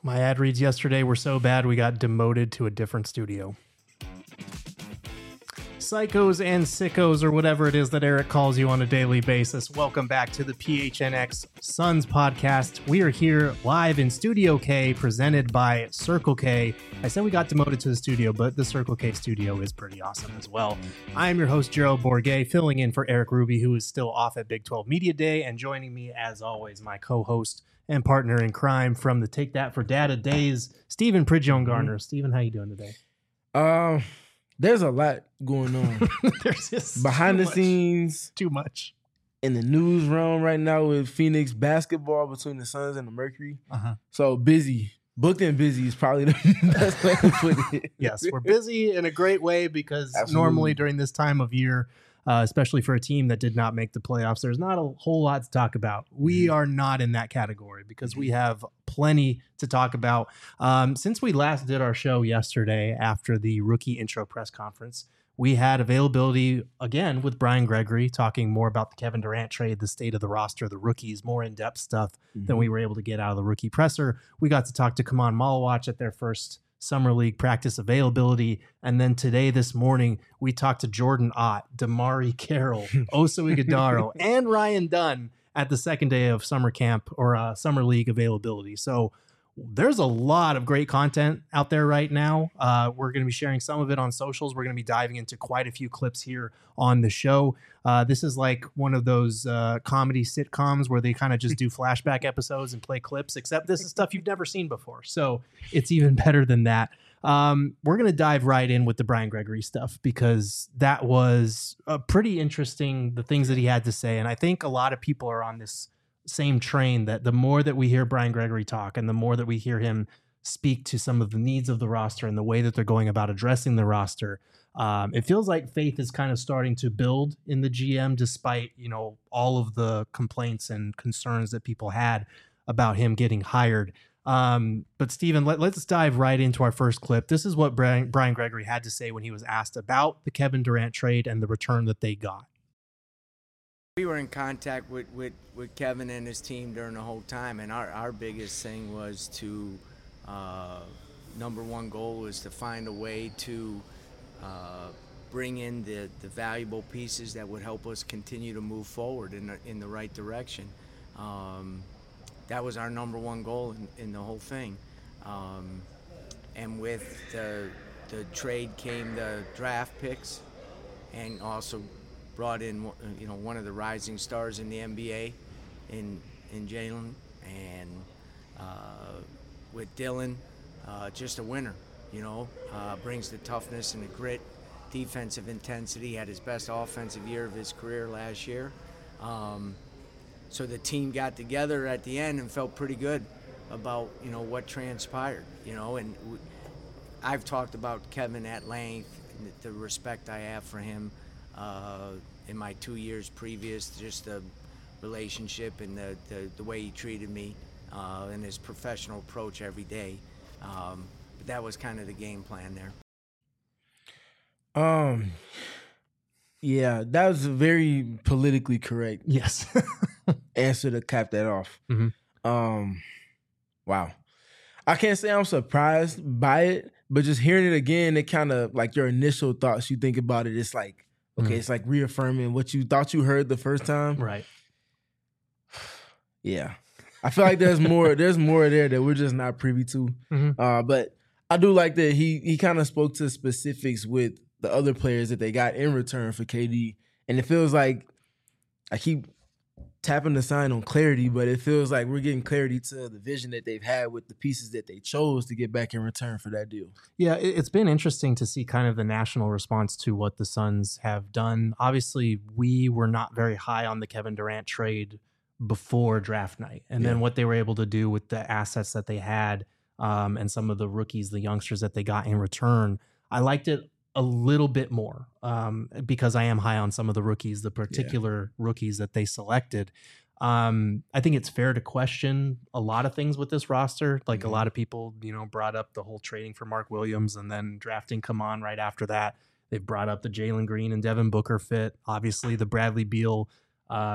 My ad reads yesterday were so bad we got demoted to a different studio. Psychos and sickos, or whatever it is that Eric calls you on a daily basis. Welcome back to the PHNX Suns podcast. We are here live in Studio K, presented by Circle K. I said we got demoted to the studio, but the Circle K studio is pretty awesome as well. I am your host, Gerald Bourget, filling in for Eric Ruby, who is still off at Big 12 Media Day, and joining me, as always, my co-host and partner in crime from the Take That for Data days, Stephen Pridgeon-Garner. Stephen, how you doing today? There's a lot going on. There's just behind the scenes, too much in the news realm right now with Phoenix basketball between the Suns and the Mercury. So busy, booked and busy is probably the best way to put it. Yes, we're busy in a great way because Absolutely. Normally during this time of year, especially for a team that did not make the playoffs, there's not a whole lot to talk about. We are not in that category because we have plenty to talk about. Since we last did our show yesterday after the rookie intro press conference, we had availability again with Brian Gregory talking more about the Kevin Durant trade, the state of the roster, the rookies, more in-depth stuff than we were able to get out of the rookie presser. We got to talk to Kaman Malawach at their first Summer League practice availability. And then today, this morning, we talked to Jordan Ott, Damari Carroll, Oso Ighodaro, and Ryan Dunn at the second day of summer camp or Summer League availability. So there's a lot of great content out there right now. We're going to be sharing some of it on socials. We're going to be diving into quite a few clips here on the show. This is like one of those comedy sitcoms where they kind of just do flashback episodes and play clips, except this is stuff you've never seen before. So it's even better than that. We're going to dive right in with the Brian Gregory stuff because that was pretty interesting, the things that he had to say. And I think a lot of people are on this same train that the more that we hear Brian Gregory talk and the more that we hear him speak to some of the needs of the roster and the way that they're going about addressing the roster, it feels like faith is kind of starting to build in the GM despite, all of the complaints and concerns that people had about him getting hired. But Stephen, let's dive right into our first clip. This is what Brian Gregory had to say when he was asked about the Kevin Durant trade and the return that they got. We were in contact with Kevin and his team during the whole time, and our biggest thing was to, number one goal was to find a way to bring in the valuable pieces that would help us continue to move forward in the right direction. That was our number one goal in the whole thing. And with the trade came the draft picks, and also brought in, one of the rising stars in the NBA in Jalen, and with Dylan, just a winner, brings the toughness and the grit, defensive intensity, had his best offensive year of his career last year. So the team got together at the end and felt pretty good about, what transpired, and I've talked about Kevin at length, and the respect I have for him, in my 2 years previous, just the relationship and the way he treated me and his professional approach every day. But that was kind of the game plan there. Yeah, that was a very politically correct Yes. answer to cap that off. Wow. I can't say I'm surprised by it, but just hearing it again, it kind of like your initial thoughts, you think about it, it's like, okay, it's like reaffirming what you thought you heard the first time. Right. Yeah. I feel like there's more there that we're just not privy to. But I do like that he kind of spoke to specifics with the other players that they got in return for KD. And it feels like I keep tapping the sign on clarity, but it feels like we're getting clarity to the vision that they've had with the pieces that they chose to get back in return for that deal. Yeah, it's been interesting to see kind of the national response to what the Suns have done. Obviously, we were not very high on the Kevin Durant trade before draft night. And then what they were able to do with the assets that they had and some of the rookies, the youngsters that they got in return, I liked it a little bit more because I am high on some of the rookies, the particular rookies that they selected. I think it's fair to question a lot of things with this roster. Like a lot of people, brought up the whole trading for Mark Williams and then drafting Kaman right after that. They've brought up the Jalen Green and Devin Booker fit. Obviously, the Bradley Beal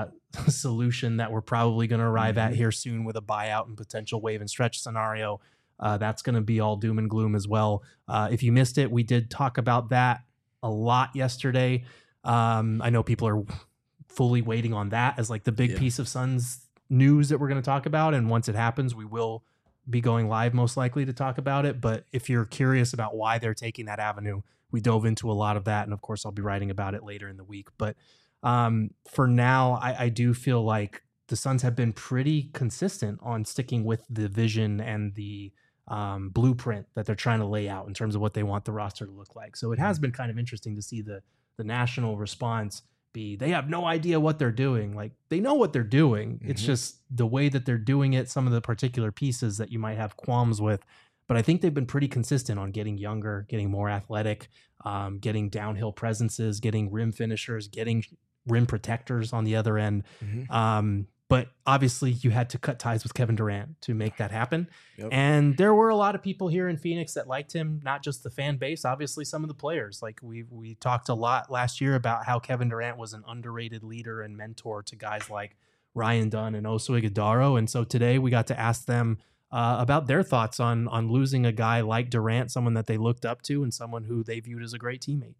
solution that we're probably going to arrive at here soon with a buyout and potential wave and stretch scenario. That's going to be all doom and gloom as well. If you missed it, we did talk about that a lot yesterday. I know people are fully waiting on that as like the big piece of Suns news that we're going to talk about. And once it happens, we will be going live most likely to talk about it. But if you're curious about why they're taking that avenue, we dove into a lot of that. And of course, I'll be writing about it later in the week. But for now, I do feel like the Suns have been pretty consistent on sticking with the vision and the blueprint that they're trying to lay out in terms of what they want the roster to look like. So it has been kind of interesting to see the national response be, they have no idea what they're doing. Like, they know what they're doing. It's just the way that they're doing it, some of the particular pieces that you might have qualms with. But I think they've been pretty consistent on getting younger, getting more athletic, getting downhill presences, getting rim finishers, getting rim protectors on the other end. But obviously you had to cut ties with Kevin Durant to make that happen. And there were a lot of people here in Phoenix that liked him, not just the fan base, obviously some of the players. Like we talked a lot last year about how Kevin Durant was an underrated leader and mentor to guys like Ryan Dunn and Oso Ighodaro. And so today we got to ask them about their thoughts on losing a guy like Durant, someone that they looked up to and someone who they viewed as a great teammate.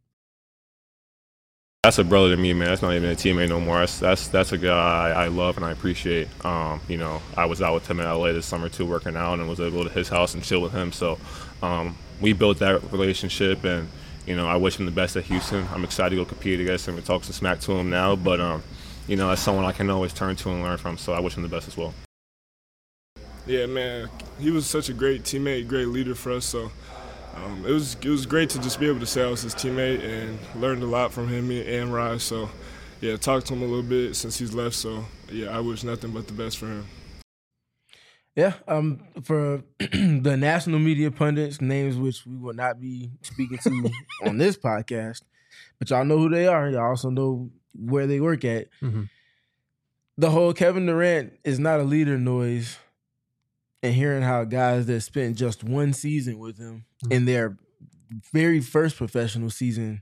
That's a brother to me, man. That's not even a teammate no more. That's a guy I love and I appreciate. You know, I was out with him in LA this summer too, working out, and was able to go to his house and chill with him. So we built that relationship, and you know, I wish him the best at Houston. I'm excited to go compete against him and talk some smack to him now. But you know, that's someone I can always turn to and learn from. So I wish him the best as well. Yeah, man, he was such a great teammate, great leader for us. So. It was great to just be able to say I was his teammate and learned a lot from him and Raj. So, yeah, talked to him a little bit since he's left. So, yeah, I wish nothing but the best for him. Yeah, for the national media pundits, names which we will not be speaking to on this podcast, but y'all know who they are. Y'all also know where they work at. The whole Kevin Durant is not a leader noise. And hearing how guys that spent just one season with him in their very first professional season,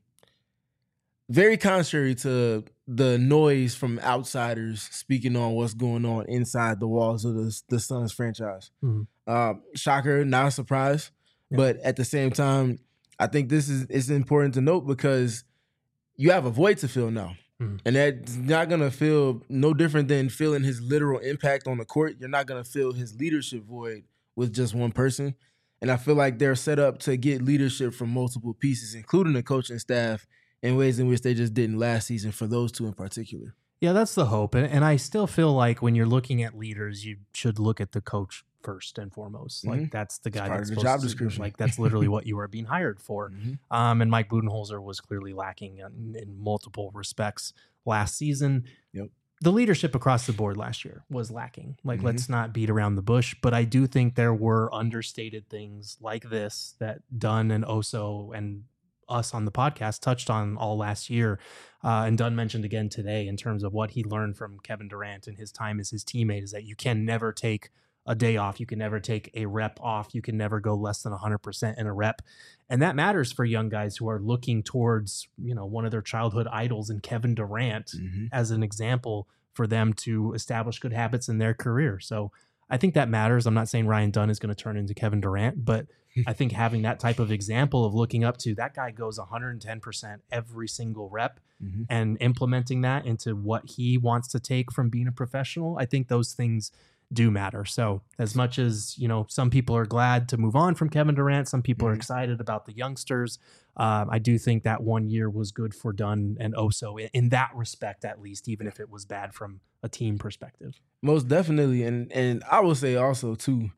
very contrary to the noise from outsiders speaking on what's going on inside the walls of the Suns franchise. Shocker, not a surprise. But at the same time, I think it's important to note because you have a void to fill now. And that's not going to feel no different than feeling his literal impact on the court. You're not going to fill his leadership void with just one person. And I feel like they're set up to get leadership from multiple pieces, including the coaching staff, in ways in which they just didn't last season for those two in particular. Yeah, that's the hope. And I still feel like when you're looking at leaders, you should look at the coach first and foremost. Like that's the guy that's the job description. Like that's literally what you are being hired for. And Mike Budenholzer was clearly lacking in multiple respects last season. The leadership across the board last year was lacking. Like let's not beat around the bush, but I do think there were understated things like this that Dunn and Oso and us on the podcast touched on all last year. And Dunn mentioned again today in terms of what he learned from Kevin Durant and his time as his teammate is that you can never take a day off. You can never take a rep off. You can never go less than 100% in a rep. And that matters for young guys who are looking towards, you know, one of their childhood idols in Kevin Durant as an example for them to establish good habits in their career. So I think that matters. I'm not saying Ryan Dunn is going to turn into Kevin Durant, but I think having that type of example of looking up to that guy goes 110% every single rep and implementing that into what he wants to take from being a professional, I think those things do matter. So as much as, you know, some people are glad to move on from Kevin Durant, some people are excited about the youngsters. I do think that 1 year was good for Dunn and Oso in that respect, at least, even if it was bad from a team perspective. Most definitely. And I will say also too,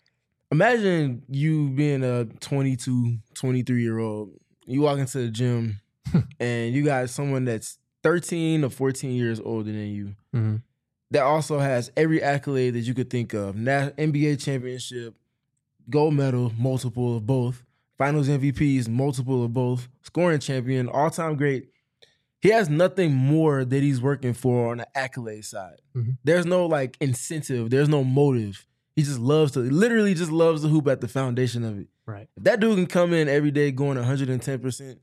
imagine you being a 22, 23-year-old, you walk into the gym and you got someone that's 13 or 14 years older than you. That also has every accolade that you could think of. NBA championship, gold medal, multiple of both. Finals MVPs, multiple of both. Scoring champion, all-time great. He has nothing more that he's working for on the accolade side. There's no like incentive. There's no motive. He just literally just loves to hoop at the foundation of it. Right. If that dude can come in every day going 110%,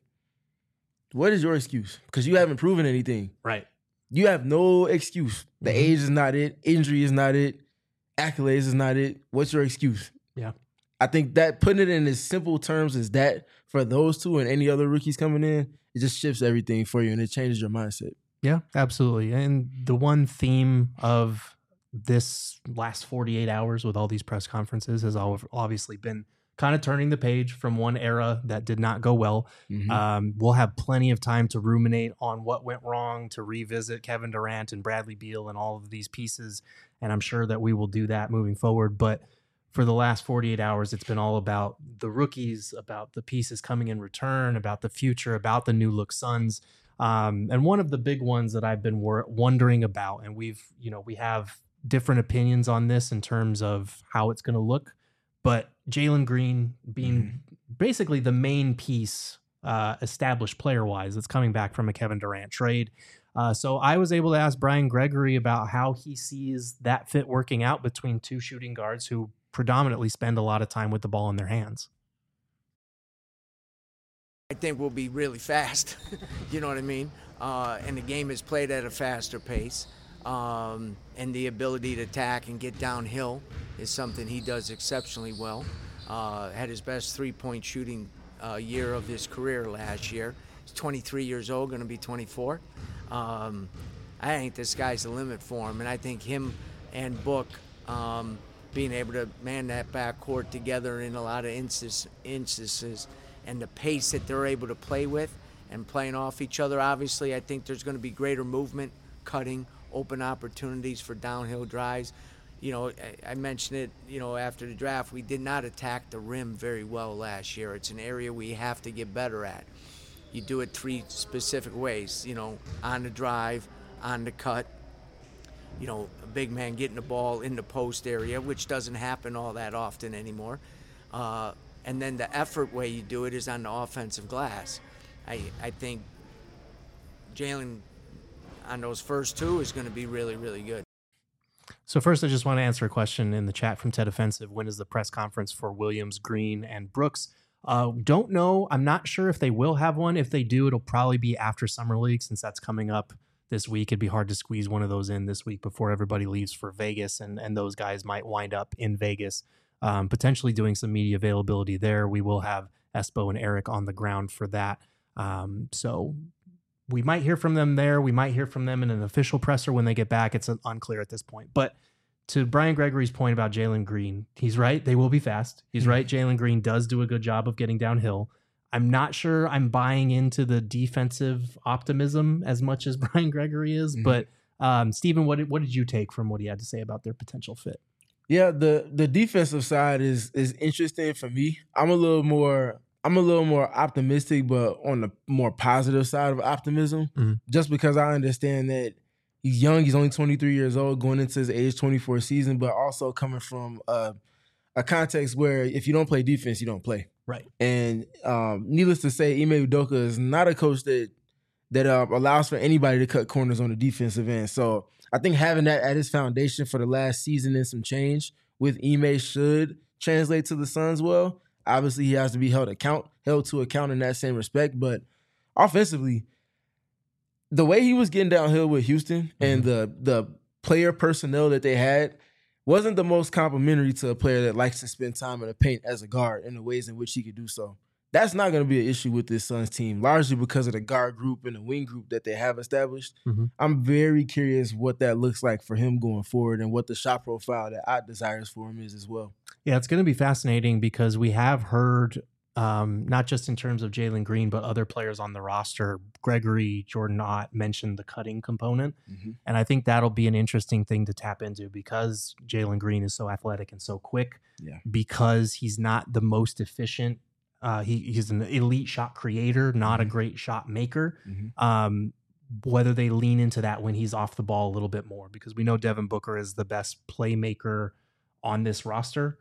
what is your excuse? Because you haven't proven anything. Right. You have no excuse. The age is not it. Injury is not it. Accolades is not it. What's your excuse? Yeah. I think that putting it in as simple terms as that for those two and any other rookies coming in, it just shifts everything for you and it changes your mindset. Yeah, absolutely. And the one theme of this last 48 hours with all these press conferences has obviously been kind of turning the page from one era that did not go well. We'll have plenty of time to ruminate on what went wrong, to revisit Kevin Durant and Bradley Beal and all of these pieces. And I'm sure that we will do that moving forward. But for the last 48 hours, it's been all about the rookies, about the pieces coming in return, about the future, about the new look Suns. And one of the big ones that I've been wondering about, and we have different opinions on this in terms of how it's going to look, but Jalen Green being basically the main piece, established player-wise, that's coming back from a Kevin Durant trade. So I was able to ask Brian Gregory about how he sees that fit working out between two shooting guards who predominantly spend a lot of time with the ball in their hands. I think we'll be really fast. You know what I mean? And the game is played at a faster pace. And the ability to attack and get downhill is something he does exceptionally well. Had his best three-point shooting year of his career last year. He's 23 years old, going to be 24. I think the sky's the limit for him, and I think him and Book being able to man that backcourt together in a lot of instances and the pace that they're able to play with and playing off each other, obviously I think there's going to be greater movement, cutting, open opportunities for downhill drives. You know, I mentioned it, you know, after the draft, we did not attack the rim very well last year. It's an area we have to get better at. You do it three specific ways, you know, on the drive, on the cut, you know, a big man getting the ball in the post area, which doesn't happen all that often anymore. And then the effort way you do it is on the offensive glass. I think Jalen on those first two is going to be really, really good. So first, I just want to answer a question in the chat from Ted Offensive. When is the press conference for Williams, Green, and Brooks? Don't know. I'm not sure if they will have one. If they do, it'll probably be after Summer League, since that's coming up this week. It'd be hard to squeeze one of those in this week before everybody leaves for Vegas, and those guys might wind up in Vegas, potentially doing some media availability there. We will have Espo and Eric on the ground for that. So we might hear from them there. We might hear from them in an official presser when they get back. It's unclear at this point. But to Brian Gregory's point about Jalen Green, he's right. They will be fast. He's right. Jalen Green does do a good job of getting downhill. I'm not sure I'm buying into the defensive optimism as much as Brian Gregory is. But Stephen, what did you take from what he had to say about their potential fit? Yeah, the defensive side is interesting for me. I'm a little more optimistic, but on the more positive side of optimism, just because I understand that he's young. He's only 23 years old, going into his age 24 season, but also coming from a context where if you don't play defense, you don't play. Right. And needless to say, Ime Udoka is not a coach that allows for anybody to cut corners on the defensive end. So I think having that at his foundation for the last season and some change with Ime should translate to the Suns well. Obviously, he has to be held to account in that same respect. But offensively, the way he was getting downhill with Houston and the player personnel that they had wasn't the most complimentary to a player that likes to spend time in the paint as a guard in the ways in which he could do so. That's not going to be an issue with this Suns team, largely because of the guard group and the wing group that they have established. I'm very curious what that looks like for him going forward and what the shot profile that I desires for him is as well. Yeah, it's going to be fascinating because we have heard, not just in terms of Jalen Green, but other players on the roster, Gregory, Jordan Ott mentioned the cutting component. And I think that'll be an interesting thing to tap into because Jalen Green is so athletic and so quick, because he's not the most efficient. He's an elite shot creator, not a great shot maker. Whether they lean into that when he's off the ball a little bit more, because we know Devin Booker is the best playmaker on this roster.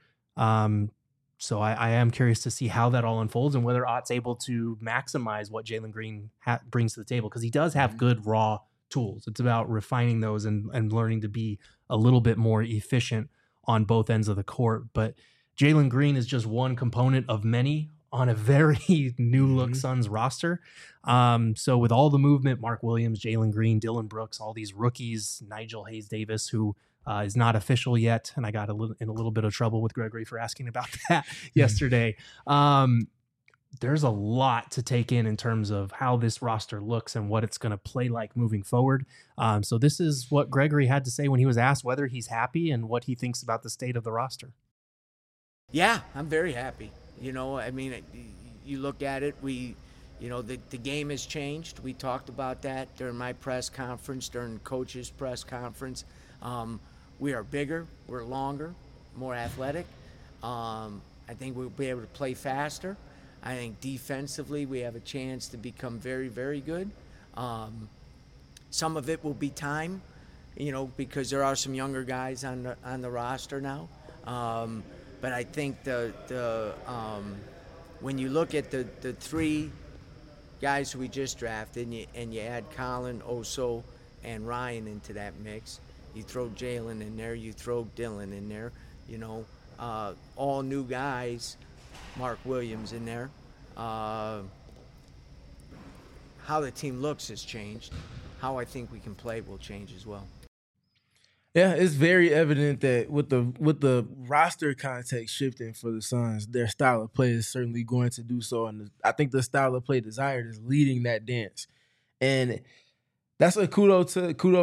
So I am curious to see how that all unfolds and whether Ott's able to maximize what Jalen Green brings to the table, because he does have good raw tools. It's about refining those and learning to be a little bit more efficient on both ends of the court. But Jalen Green is just one component of many on a very new look Suns roster. So with all the movement, Mark Williams, Jalen Green, Dylan Brooks, all these rookies, Nigel Hayes-Davis, who is not official yet, and I got in a little bit of trouble with Gregory for asking about that yesterday. There's a lot to take in terms of how this roster looks and what it's going to play like moving forward. So this is what Gregory had to say when he was asked whether he's happy and what he thinks about the state of the roster. Yeah, I'm very happy. You know, I mean, you look at it, the game has changed. We talked about that during my press conference, during coach's press conference. We are bigger, we're longer, more athletic. I think we'll be able to play faster. I think defensively we have a chance to become very, very good. Some of it will be time, because there are some younger guys on the roster now. But I think when you look at the three guys who we just drafted and you add Colin, Oso, and Ryan into that mix, you throw Jalen in there, you throw Dylan in there, all new guys, Mark Williams in there. How the team looks has changed. How I think we can play will change as well. Yeah, it's very evident that with the roster context shifting for the Suns, their style of play is certainly going to do so, and I think the style of play desired is leading that dance, and that's a kudos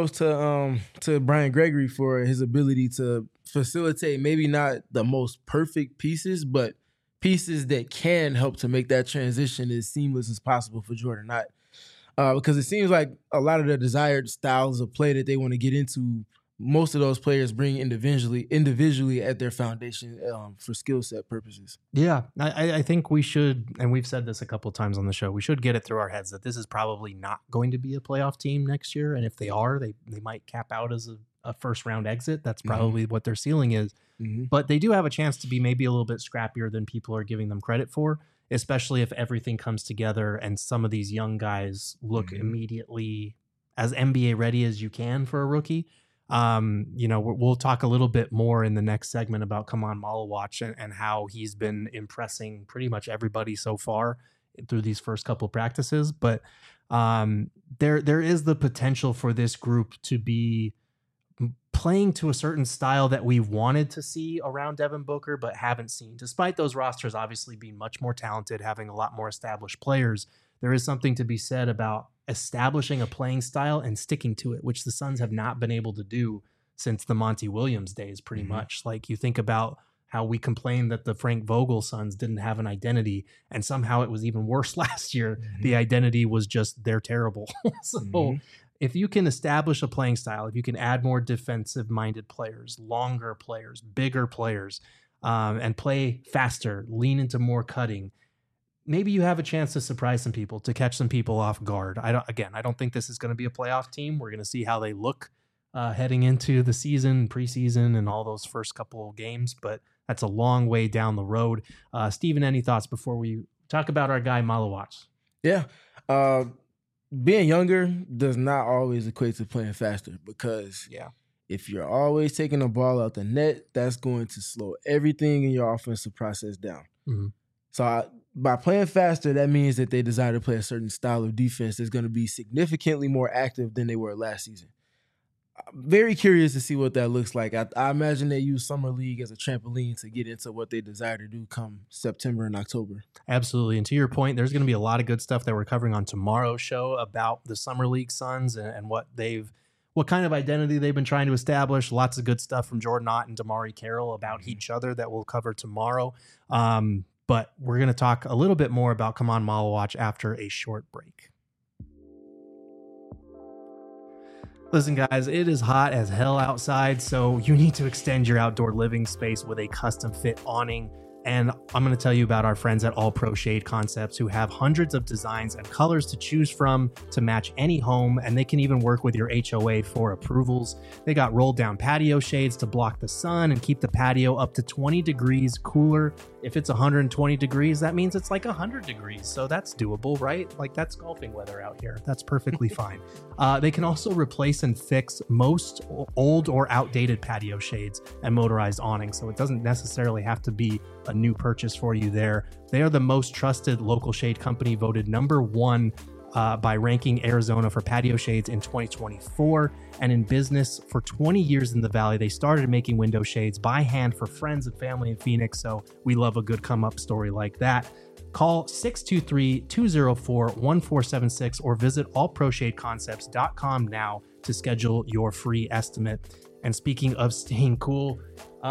to Brian Gregory for his ability to facilitate maybe not the most perfect pieces, but pieces that can help to make that transition as seamless as possible for Jordan Knott. Because it seems like a lot of the desired styles of play that they want to get into, most of those players bring individually at their foundation for skill set purposes. Yeah, I think we should, and we've said this a couple of times on the show, we should get it through our heads that this is probably not going to be a playoff team next year. And if they are, they might cap out as a first round exit. That's probably what their ceiling is. Mm-hmm. But they do have a chance to be maybe a little bit scrappier than people are giving them credit for, especially if everything comes together and some of these young guys look immediately as NBA ready as you can for a rookie. We'll talk a little bit more in the next segment about Kamon Malawach and how he's been impressing pretty much everybody so far through these first couple of practices. But there is the potential for this group to be playing to a certain style that we wanted to see around Devin Booker, but haven't seen. Despite those rosters obviously being much more talented, having a lot more established players, there is something to be said about establishing a playing style and sticking to it, which the Suns have not been able to do since the Monty Williams days, pretty much. Like, you think about how we complained that the Frank Vogel Suns didn't have an identity, and somehow it was even worse last year. The identity was just, they're terrible. So if you can establish a playing style, if you can add more defensive-minded players, longer players, bigger players, and play faster, lean into more cutting, maybe you have a chance to surprise some people, to catch some people off guard. I don't think this is going to be a playoff team. We're going to see how they look heading into the season, preseason, and all those first couple of games, but that's a long way down the road. Steven, any thoughts before we talk about our guy Malawach? Yeah. Being younger does not always equate to playing faster, because if you're always taking the ball out the net, that's going to slow everything in your offensive process down. So by playing faster, that means that they desire to play a certain style of defense that's going to be significantly more active than they were last season. I'm very curious to see what that looks like. I imagine they use Summer League as a trampoline to get into what they desire to do come September and October. Absolutely. And to your point, there's going to be a lot of good stuff that we're covering on tomorrow's show about the Summer League Suns and what kind of identity they've been trying to establish. Lots of good stuff from Jordan Knott and Damari Carroll about each other that we'll cover tomorrow. But we're going to talk a little bit more about Kamon Malawach after a short break. Listen, guys, it is hot as hell outside, so you need to extend your outdoor living space with a custom fit awning. And I'm going to tell you about our friends at All Pro Shade Concepts, who have hundreds of designs and colors to choose from to match any home, and they can even work with your HOA for approvals. They got rolled down patio shades to block the sun and keep the patio up to 20 degrees cooler. If it's 120 degrees, that means it's like 100 degrees. So that's doable, right? Like, that's golfing weather out here. That's perfectly fine. They can also replace and fix most old or outdated patio shades and motorized awnings. So it doesn't necessarily have to be a new purchase for you there. They are the most trusted local shade company, voted #1 by ranking Arizona for patio shades in 2024. And in business for 20 years in the Valley, they started making window shades by hand for friends and family in Phoenix. So we love a good come up story like that. Call 623-204-1476 or visit allproshadeconcepts.com now to schedule your free estimate. And speaking of staying cool,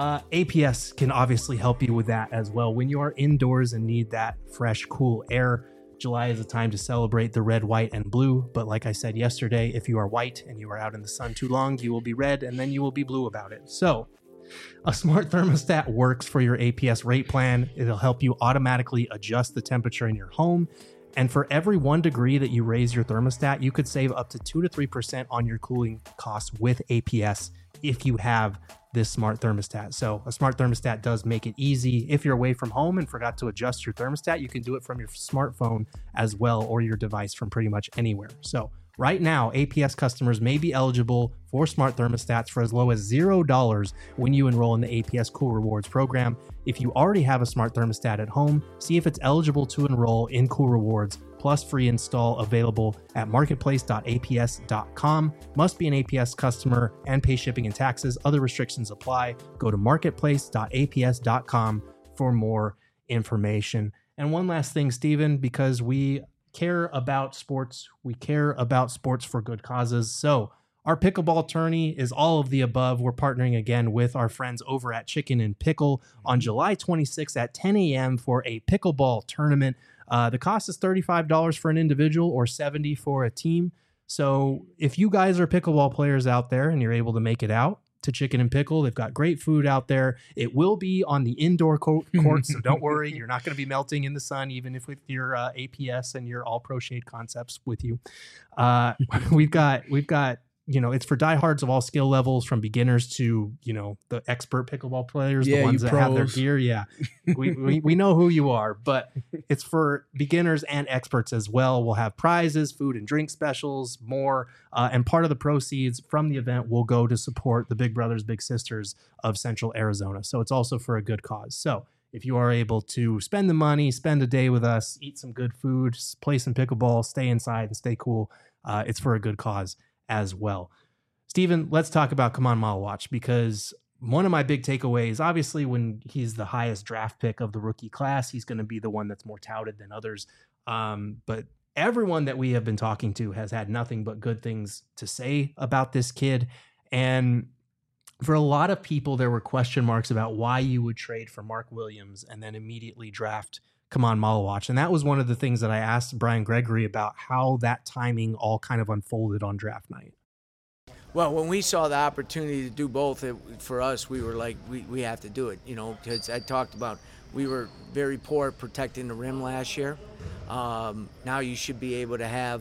APS can obviously help you with that as well. When you are indoors and need that fresh, cool air, July is a time to celebrate the red, white, and blue. But like I said yesterday, if you are white and you are out in the sun too long, you will be red and then you will be blue about it. So a smart thermostat works for your APS rate plan. It'll help you automatically adjust the temperature in your home. And for every 1 degree that you raise your thermostat, you could save up to 2 to 3% on your cooling costs with APS if you have this smart thermostat. So a smart thermostat does make it easy. If you're away from home and forgot to adjust your thermostat, you can do it from your smartphone as well, or your device from pretty much anywhere. So right now, APS customers may be eligible for smart thermostats for as low as $0 when you enroll in the APS Cool Rewards program. If you already have a smart thermostat at home, see if it's eligible to enroll in Cool Rewards, plus free install available at marketplace.aps.com. Must be an APS customer and pay shipping and taxes. Other restrictions apply. Go to marketplace.aps.com for more information. And one last thing, Stephen, because we care about sports. We care about sports for good causes. So our pickleball tourney is all of the above. We're partnering again with our friends over at Chicken and Pickle on July 26th at 10 a.m. for a pickleball tournament. The cost is $35 for an individual or $70 for a team. So if you guys are pickleball players out there and you're able to make it out to Chicken and Pickle, they've got great food out there. It will be on the indoor court, so don't worry. You're not going to be melting in the sun, even if with your APS and your All Pro Shade Concepts with you. We've got it's for diehards of all skill levels, from beginners to, the expert pickleball players, the ones that have their gear. Yeah, we know who you are, but it's for beginners and experts as well. We'll have prizes, food and drink specials, more. And part of the proceeds from the event will go to support the Big Brothers, Big Sisters of Central Arizona. So it's also for a good cause. So if you are able to spend the money, spend a day with us, eat some good food, play some pickleball, stay inside and stay cool, it's for a good cause as well. Stephen, let's talk about Come On Malawach, because one of my big takeaways, obviously when he's the highest draft pick of the rookie class, he's going to be the one that's more touted than others. But everyone that we have been talking to has had nothing but good things to say about this kid. And for a lot of people, there were question marks about why you would trade for Mark Williams and then immediately draft Come On Malawach. And that was one of the things that I asked Brian Gregory about, how that timing all kind of unfolded on draft night. Well, when we saw the opportunity to do both, for us, we were like, we have to do it, because I talked about we were very poor at protecting the rim last year. Now you should be able to have,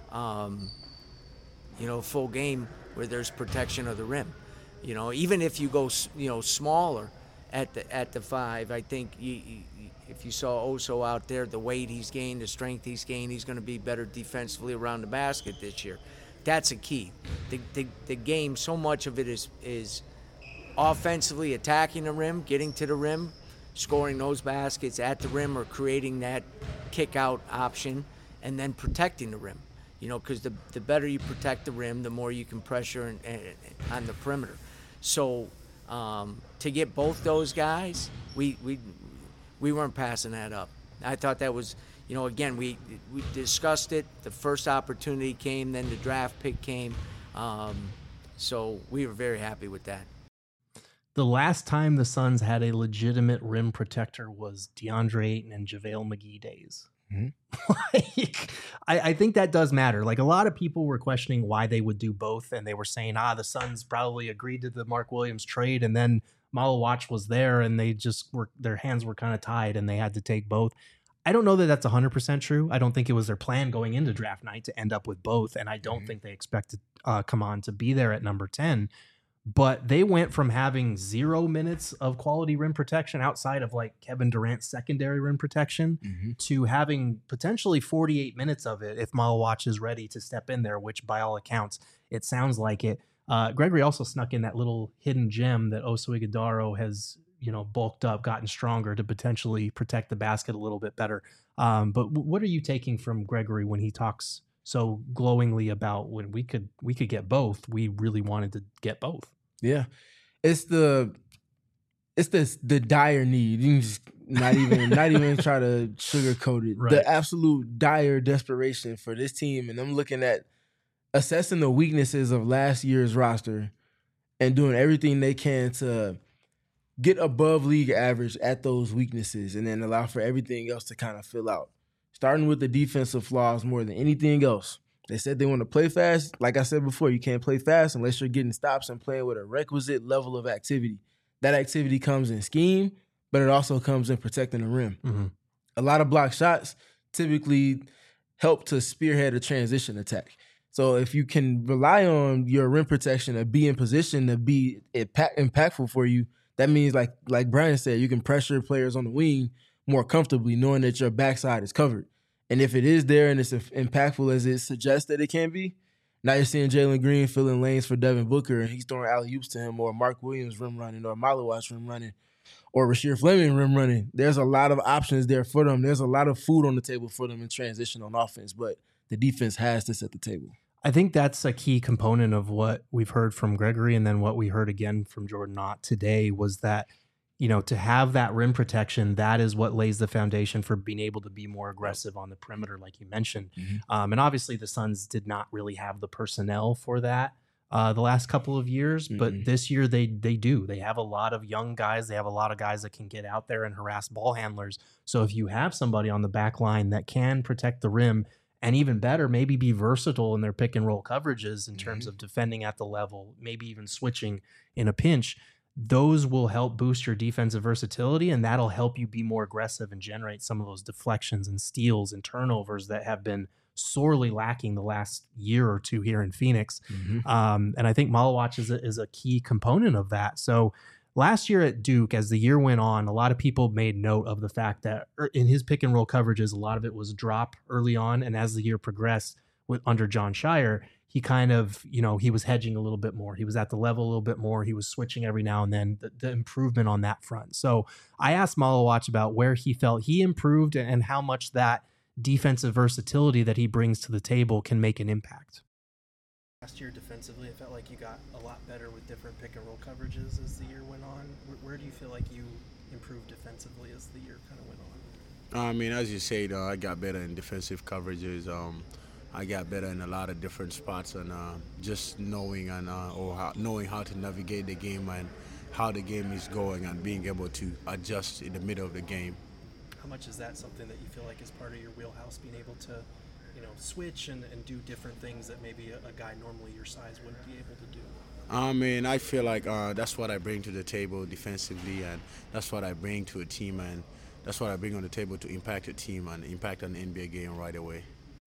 full game where there's protection of the rim. Even if you go, smaller at the 5, I think if you saw Oso out there, the weight he's gained, the strength he's gained, he's going to be better defensively around the basket this year. That's a key. The game, so much of it is offensively attacking the rim, getting to the rim, scoring those baskets at the rim or creating that kick-out option, and then protecting the rim. Because the better you protect the rim, the more you can pressure on the perimeter. So to get both those guys, we weren't passing that up. I thought that was, again, we discussed it. The first opportunity came, then the draft pick came. So we were very happy with that. The last time the Suns had a legitimate rim protector was DeAndre Ayton and JaVale McGee days. Mm-hmm. I think that does matter. Like, a lot of people were questioning why they would do both, and they were saying, the Suns probably agreed to the Mark Williams trade, and then Malawach was there, and they just their hands were kind of tied, and they had to take both. I don't know that that's 100% true. I don't think it was their plan going into draft night to end up with both, and I don't think they expected Come On to be there at number 10. But they went from having 0 minutes of quality rim protection outside of like Kevin Durant's secondary rim protection to having potentially 48 minutes of it if Malawach is ready to step in there, which by all accounts, it sounds like it. Gregory also snuck in that little hidden gem that Oso Ighodaro has, bulked up, gotten stronger to potentially protect the basket a little bit better. But what are you taking from Gregory when he talks so glowingly about when we could get both? We really wanted to get both. Yeah, it's the dire need. You can just not even try to sugarcoat it. Right. The absolute dire desperation for this team, and I'm looking at assessing the weaknesses of last year's roster and doing everything they can to get above league average at those weaknesses, and then allow for everything else to kind of fill out. Starting with the defensive flaws more than anything else. They said they want to play fast. Like I said before, you can't play fast unless you're getting stops and playing with a requisite level of activity. That activity comes in scheme, but it also comes in protecting the rim. Mm-hmm. A lot of block shots typically help to spearhead a transition attack. So if you can rely on your rim protection to be in position to be impactful for you, that means, like Brian said, you can pressure players on the wing more comfortably knowing that your backside is covered. And if it is there and it's impactful as it suggests that it can be, now you're seeing Jalen Green filling lanes for Devin Booker and he's throwing alley-oops to him, or Mark Williams rim running, or Malawach rim running, or Rasheer Fleming rim running. There's a lot of options there for them. There's a lot of food on the table for them in transition on offense, but the defense has to set the table. I think that's a key component of what we've heard from Gregory, and then what we heard again from Jordan Knott today was that, to have that rim protection, that is what lays the foundation for being able to be more aggressive on the perimeter, like you mentioned. Mm-hmm. And obviously the Suns did not really have the personnel for that the last couple of years, but this year they do. They have a lot of young guys. They have a lot of guys that can get out there and harass ball handlers. So if you have somebody on the back line that can protect the rim, and even better, maybe be versatile in their pick and roll coverages in terms of defending at the level, maybe even switching in a pinch, those will help boost your defensive versatility, and that'll help you be more aggressive and generate some of those deflections and steals and turnovers that have been sorely lacking the last year or two here in Phoenix. And I think Malawach is a key component of that. So last year at Duke, as the year went on, a lot of people made note of the fact that in his pick and roll coverages, a lot of it was drop early on. And as the year progressed under Jon Scheyer, he kind of, he was hedging a little bit more. He was at the level a little bit more. He was switching every now and then, the improvement on that front. So I asked Malawach about where he felt he improved and how much that defensive versatility that he brings to the table can make an impact. Last year defensively, it felt like you got a lot better with different pick and roll coverages as the year went on. Where do you feel like you improved defensively as the year kind of went on? I mean, as you said, I got better in defensive coverages. I got better in a lot of different spots, and just knowing knowing how to navigate the game and how the game is going, and being able to adjust in the middle of the game. How much is that something that you feel like is part of your wheelhouse, being able to switch and do different things that maybe a guy normally your size wouldn't be able to do? I mean, I feel like that's what I bring to the table defensively, and that's what I bring to a team, and that's what I bring on the table to impact a team and impact an NBA game right away.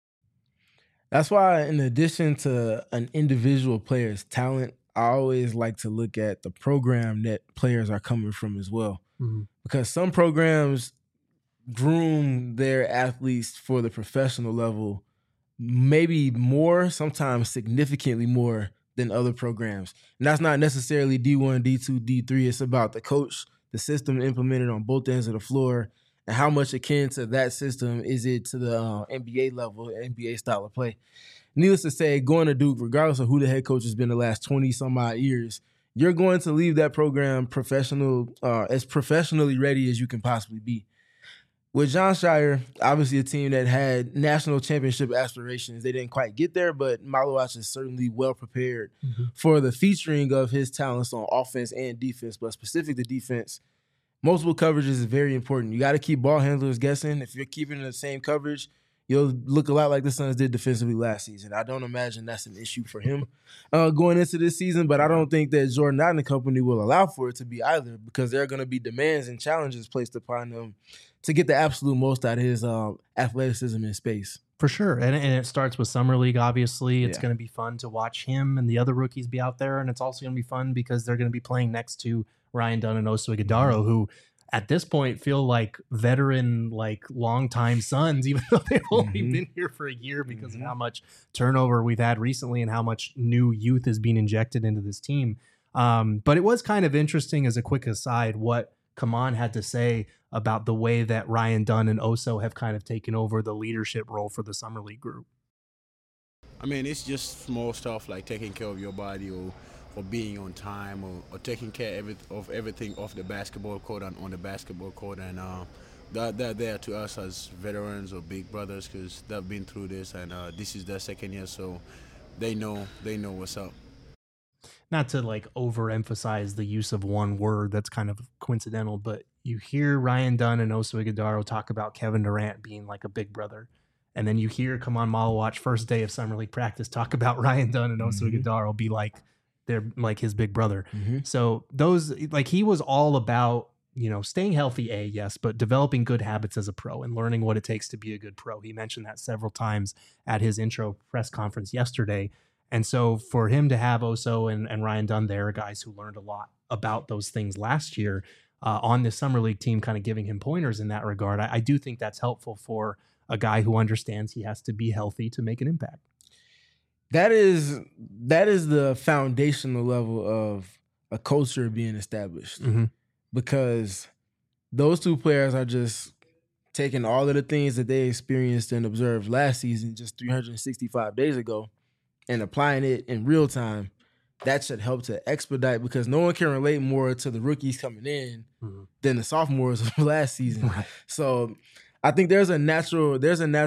That's why, in addition to an individual player's talent, I always like to look at the program that players are coming from as well. Mm-hmm. Because some programs groom their athletes for the professional level maybe more, sometimes significantly more than other programs. And that's not necessarily D1, D2, D3. It's about the coach, the system implemented on both ends of the floor, and how much akin to that system is it to the NBA level, NBA style of play. Needless to say, going to Duke, regardless of who the head coach has been the last 20-some-odd years, you're going to leave that program as professionally ready as you can possibly be. With Jon Scheyer, obviously a team that had national championship aspirations, they didn't quite get there, but Malawach is certainly well prepared for the featuring of his talents on offense and defense, but specific to defense. Multiple coverages is very important. You got to keep ball handlers guessing. If you're keeping the same coverage, you'll look a lot like the Suns did defensively last season. I don't imagine that's an issue for him going into this season, but I don't think that Jordan Knott and the company will allow for it to be either, because there are going to be demands and challenges placed upon them to get the absolute most out of his athleticism in space. For sure. And it starts with Summer League, obviously. It's going to be fun to watch him and the other rookies be out there, and it's also going to be fun because they're going to be playing next to Ryan Dunn and Oso Ighodaro, who at this point feel like veteran, like longtime Suns, even though they've only been here for a year because of how much turnover we've had recently and how much new youth is being injected into this team. But it was kind of interesting, as a quick aside, what Kaman had to say about the way that Ryan Dunn and Oso have kind of taken over the leadership role for the Summer League group. I mean, it's just small stuff like taking care of your body or being on time or taking care of everything off the basketball court and on the basketball court. And they're there to us as veterans or big brothers because they've been through this, and this is their second year, so they know what's up. Not to like overemphasize the use of one word that's kind of coincidental, but you hear Ryan Dunn and Oso Ighodaro talk about Kevin Durant being like a big brother. And then you hear Kaman Malawach first day of Summer League practice talk about Ryan Dunn and Oso Ighodaro be like, they're like his big brother. So those, like, he was all about, you know, staying healthy, yes, but developing good habits as a pro and learning what it takes to be a good pro. He mentioned that several times at his intro press conference yesterday. And so for him to have Oso and Ryan Dunn there, guys who learned a lot about those things last year on this Summer League team, kind of giving him pointers in that regard, I do think that's helpful for a guy who understands he has to be healthy to make an impact. That is the foundational level of a culture being established, because those two players are just taking all of the things that they experienced and observed last season, just 365 days ago, and applying it in real time. That should help to expedite, because no one can relate more to the rookies coming in than the sophomores of last season. Right. So I think there's a natural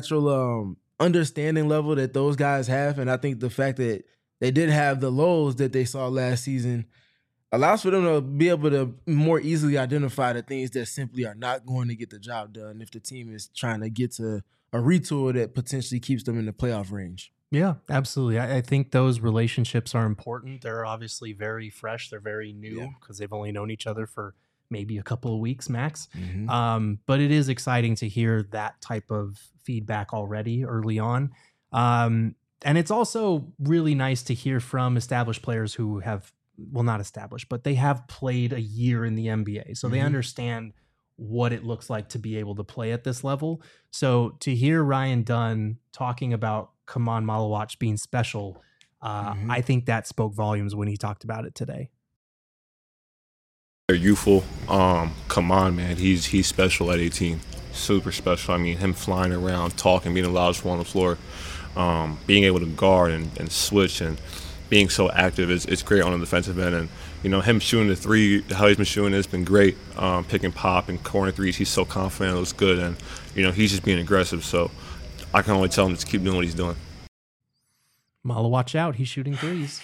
understanding level that those guys have, and I think the fact that they did have the lows that they saw last season allows for them to be able to more easily identify the things that simply are not going to get the job done if the team is trying to get to a retool that potentially keeps them in the playoff range. Yeah, absolutely. I think those relationships are important. They're obviously very fresh. They're very new because they've only known each other for maybe a couple of weeks max. But it is exciting to hear that type of feedback already early on. And it's also really nice to hear from established players who have, well, not established, but they have played a year in the NBA. So they understand what it looks like to be able to play at this level. So to hear Ryan Dunn talking about Kaman Malawach being special, I think that spoke volumes when he talked about it today. They're youthful. Kaman, man, he's special at 18. Super special. I mean, him flying around, talking, being the loudest one on the floor, being able to guard and switch and being so active is great on the defensive end. And, you know, him shooting the three, how he's been shooting it's been great. Pick and pop and corner threes, he's so confident, it looks good. And, you know, he's just being aggressive. So I can only tell him to keep doing what he's doing. Malawach out, he's shooting threes.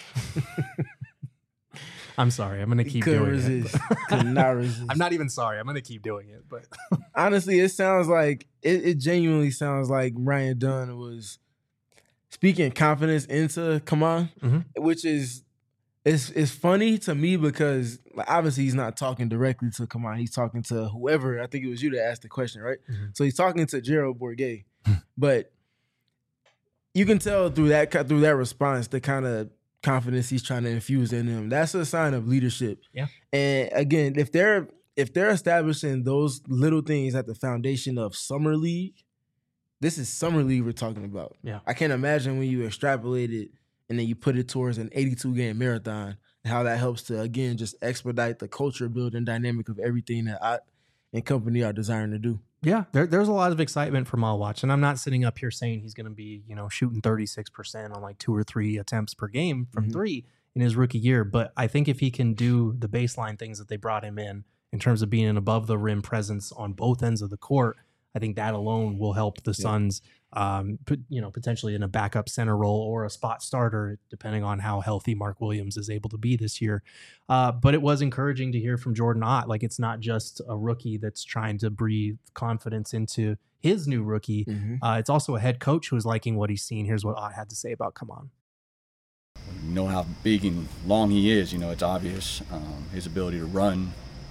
I'm sorry. I'm going to keep doing it. Could not resist. I'm not even sorry. I'm going to keep doing it. But honestly, it sounds like, it genuinely sounds like Ryan Dunn was speaking confidence into Kaman, which is, it's funny to me because obviously he's not talking directly to Kaman. He's talking to whoever. I think it was you that asked the question, right? So he's talking to Gerald Bourguet. But you can tell through that response the kind of confidence he's trying to infuse in them. That's a sign of leadership. Yeah. And again, if they're establishing those little things at the foundation of Summer League, this is Summer League we're talking about. Yeah. I can't imagine when you extrapolate it and then you put it towards an 82-game marathon, and how that helps to, again, just expedite the culture building dynamic of everything that I and company are desiring to do. Yeah, there's a lot of excitement for Malawach, and I'm not sitting up here saying he's going to be, you know, shooting 36% on like 2 or 3 attempts per game from three in his rookie year. But I think if he can do the baseline things that they brought him in terms of being an above the rim presence on both ends of the court, I think that alone will help the Suns, potentially in a backup center role or a spot starter, depending on how healthy Mark Williams is able to be this year. But it was encouraging to hear from Jordan Ott. Like, it's not just a rookie that's trying to breathe confidence into his new rookie. It's also a head coach who is liking what he's seen. Here's what Ott had to say about Kaman. You know how big and long he is. You know, it's obvious. His ability to run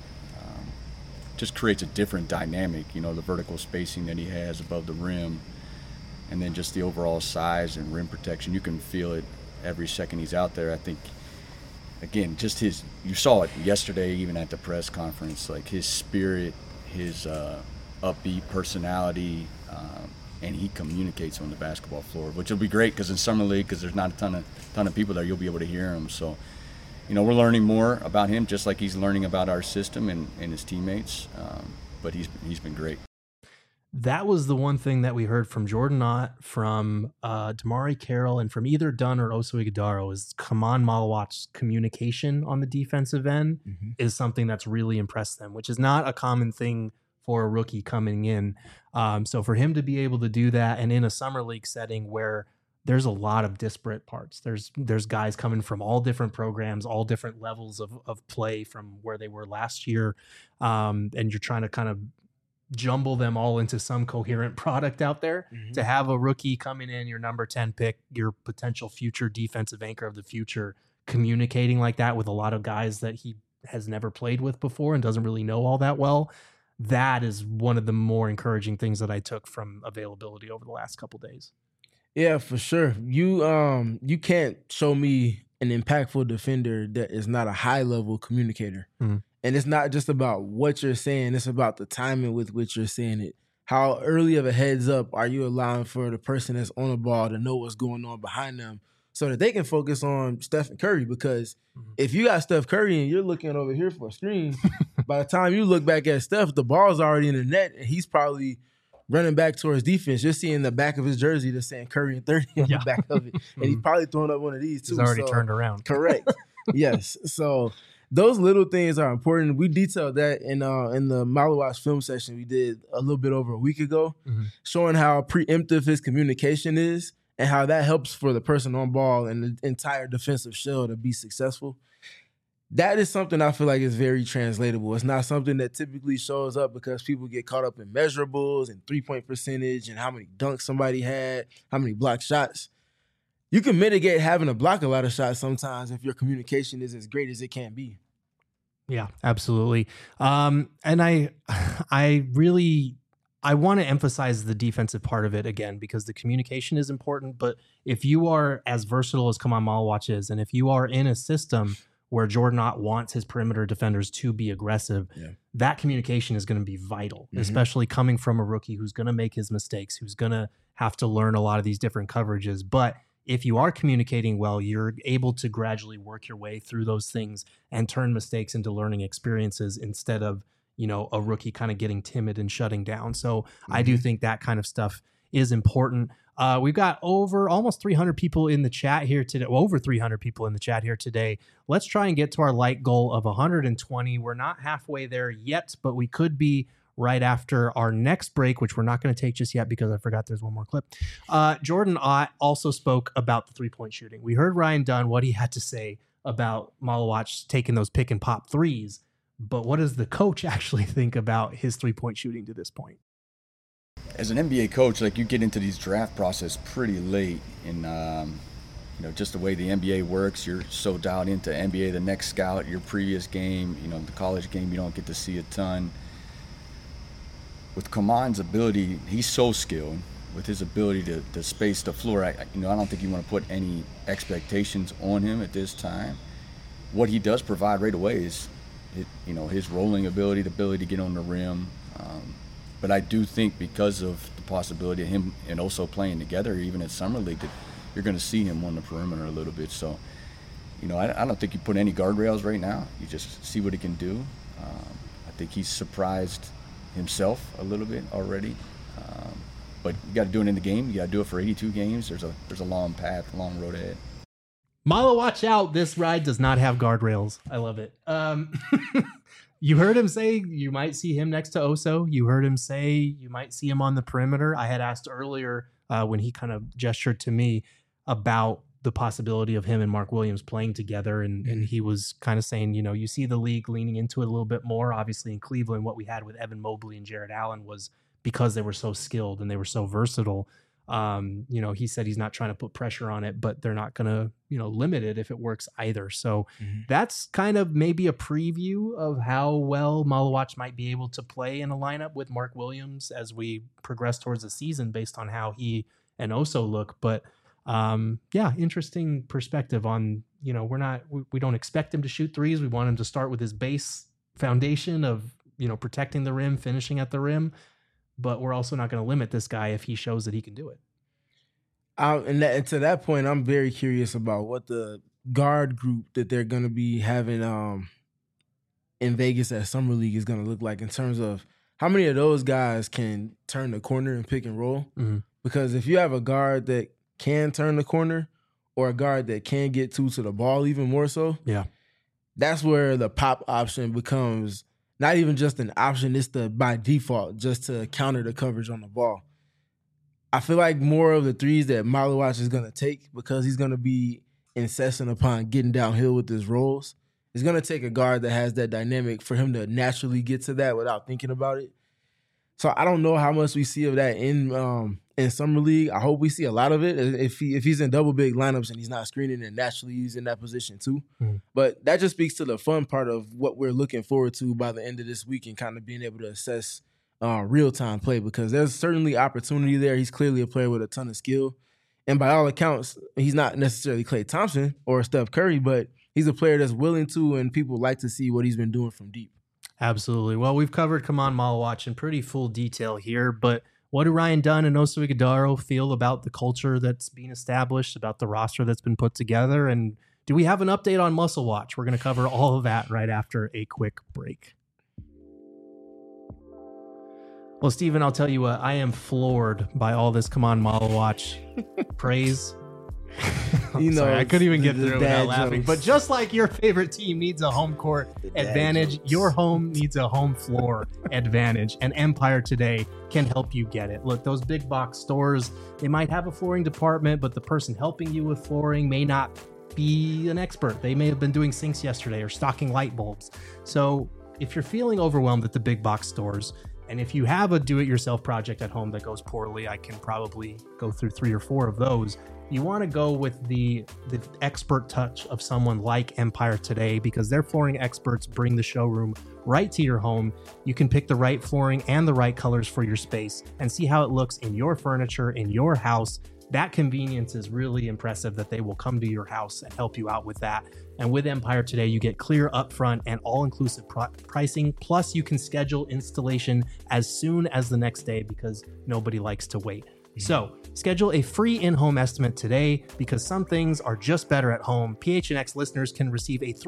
just creates a different dynamic. You know, the vertical spacing that he has above the rim, and then just the overall size and rim protection. You can feel it every second he's out there. I think, again, just you saw it yesterday, even at the press conference, like his spirit, his upbeat personality, and he communicates on the basketball floor, which will be great because in Summer League, because there's not a ton of people there, you'll be able to hear him. So we're learning more about him, just like he's learning about our system and his teammates. But he's been great. That was the one thing that we heard from Jordan Ott, from Damari Carroll, and from either Dunn or Oso Ighodaro is Kaman Malawat's communication on the defensive end is something that's really impressed them, which is not a common thing for a rookie coming in. So for him to be able to do that, and in a summer league setting where there's a lot of disparate parts, there's guys coming from all different programs, all different levels of play from where they were last year, and you're trying to kind of jumble them all into some coherent product out there. To have a rookie coming in, your number 10 pick, your potential future defensive anchor of the future, communicating like that with a lot of guys that he has never played with before and doesn't really know all that well. That is one of the more encouraging things that I took from availability over the last couple days. Yeah, for sure. You can't show me an impactful defender that is not a high level communicator. And it's not just about what you're saying, it's about the timing with which you're saying it. How early of a heads up are you allowing for the person that's on the ball to know what's going on behind them so that they can focus on Stephen Curry? Because if you got Steph Curry and you're looking over here for a screen, by the time you look back at Steph, the ball's already in the net and he's probably running back towards defense. You're seeing the back of his jersey that's saying Curry and 30 on the back of it. And he's probably throwing up one of these too. He's already turned around. Correct. Yes. So those little things are important. We detailed that in the Malawatch film session we did a little bit over a week ago, showing how preemptive his communication is and how that helps for the person on ball and the entire defensive shell to be successful. That is something I feel like is very translatable. It's not something that typically shows up because people get caught up in measurables and three-point percentage and how many dunks somebody had, how many blocked shots. You can mitigate having to block a lot of shots sometimes if your communication is as great as it can be. Yeah, absolutely. And I want to emphasize the defensive part of it again, because the communication is important. But if you are as versatile as Kaman Malawatch is, and if you are in a system where Jordan Ott wants his perimeter defenders to be aggressive, that communication is going to be vital, especially coming from a rookie who's going to make his mistakes, who's going to have to learn a lot of these different coverages. But if you are communicating well, you're able to gradually work your way through those things and turn mistakes into learning experiences instead of, a rookie kind of getting timid and shutting down. So I do think that kind of stuff is important. We've got over almost 300 people in the chat here today, over 300 people in the chat here today. Let's try and get to our light goal of 120. We're not halfway there yet, but we could be right after our next break, which we're not going to take just yet because I forgot there's one more clip. Jordan Ott also spoke about the three-point shooting. We heard Ryan Dunn, what he had to say about Malawatch taking those pick and pop threes, but what does the coach actually think about his three-point shooting to this point? As an NBA coach, you get into these draft process pretty late, and just the way the NBA works, you're so dialed into NBA, the next scout, your previous game, the college game, you don't get to see a ton. With Kaman's ability, he's so skilled with his ability to space the floor. I don't think you want to put any expectations on him at this time. What he does provide right away is, his rolling ability, the ability to get on the rim. But I do think because of the possibility of him and also playing together, even at Summer League, that you're going to see him on the perimeter a little bit. So, I don't think you put any guardrails right now. You just see what he can do. I think he's surprised himself a little bit already. But you got to do it in the game. You got to do it for 82 games. There's a long path, long road ahead. Watch out. This ride does not have guardrails. I love it. You heard him say you might see him next to Oso. You heard him say you might see him on the perimeter. I had asked earlier when he kind of gestured to me about the possibility of him and Mark Williams playing together. And he was kind of saying, you see the league leaning into it a little bit more. Obviously in Cleveland, what we had with Evan Mobley and Jared Allen was because they were so skilled and they were so versatile. He said he's not trying to put pressure on it, but they're not going to, limit it if it works either. So that's kind of maybe a preview of how well Malawatch might be able to play in a lineup with Mark Williams as we progress towards the season based on how he and Oso look. But interesting perspective on, we don't expect him to shoot threes. We want him to start with his base foundation of, protecting the rim, finishing at the rim. But we're also not going to limit this guy if he shows that he can do it. And to that point, I'm very curious about what the guard group that they're going to be having in Vegas at Summer League is going to look like in terms of how many of those guys can turn the corner and pick and roll. Mm-hmm. Because if you have a guard that can turn the corner or a guard that can get to the ball even more so, yeah, that's where the pop option becomes not even just an option, it's the by default just to counter the coverage on the ball. I feel like more of the threes that Malawach is going to take, because he's going to be incessant upon getting downhill with his rolls, it's going to take a guard that has that dynamic for him to naturally get to that without thinking about it. So I don't know how much we see of that in Summer League. I hope we see a lot of it. If he's in double big lineups and he's not screening, and naturally he's in that position too. Mm-hmm. But that just speaks to the fun part of what we're looking forward to by the end of this week and kind of being able to assess real-time play, because there's certainly opportunity there. He's clearly a player with a ton of skill. And by all accounts, he's not necessarily Klay Thompson or Steph Curry, but he's a player that's willing to, and people like to see what he's been doing from deep. Absolutely. Well, we've covered Kaman Malawach in pretty full detail here, but what do Ryan Dunn and Oso Ighodaro feel about the culture that's being established, about the roster that's been put together, and do we have an update on Muscle Watch? We're going to cover all of that right after a quick break. Well, Steven, I'll tell you what, I am floored by all this Kaman Malawach praise. Sorry, I couldn't even get through it without laughing. But just like your favorite team needs a home court advantage, your home needs a home floor advantage, and Empire Today can help you get it. Look, those big box stores, they might have a flooring department, but the person helping you with flooring may not be an expert. They may have been doing sinks yesterday or stocking light bulbs. So if you're feeling overwhelmed at the big box stores, and if you have a do-it-yourself project at home that goes poorly, I can probably go through 3 or 4 of those. You want to go with the expert touch of someone like Empire Today, because their flooring experts bring the showroom right to your home. You can pick the right flooring and the right colors for your space and see how it looks in your furniture, in your house. That convenience is really impressive, that they will come to your house and help you out with that. And with Empire Today, you get clear upfront and all-inclusive pricing. Plus, you can schedule installation as soon as the next day, because nobody likes to wait. So schedule a free in-home estimate today, because some things are just better at home. PHNX listeners can receive a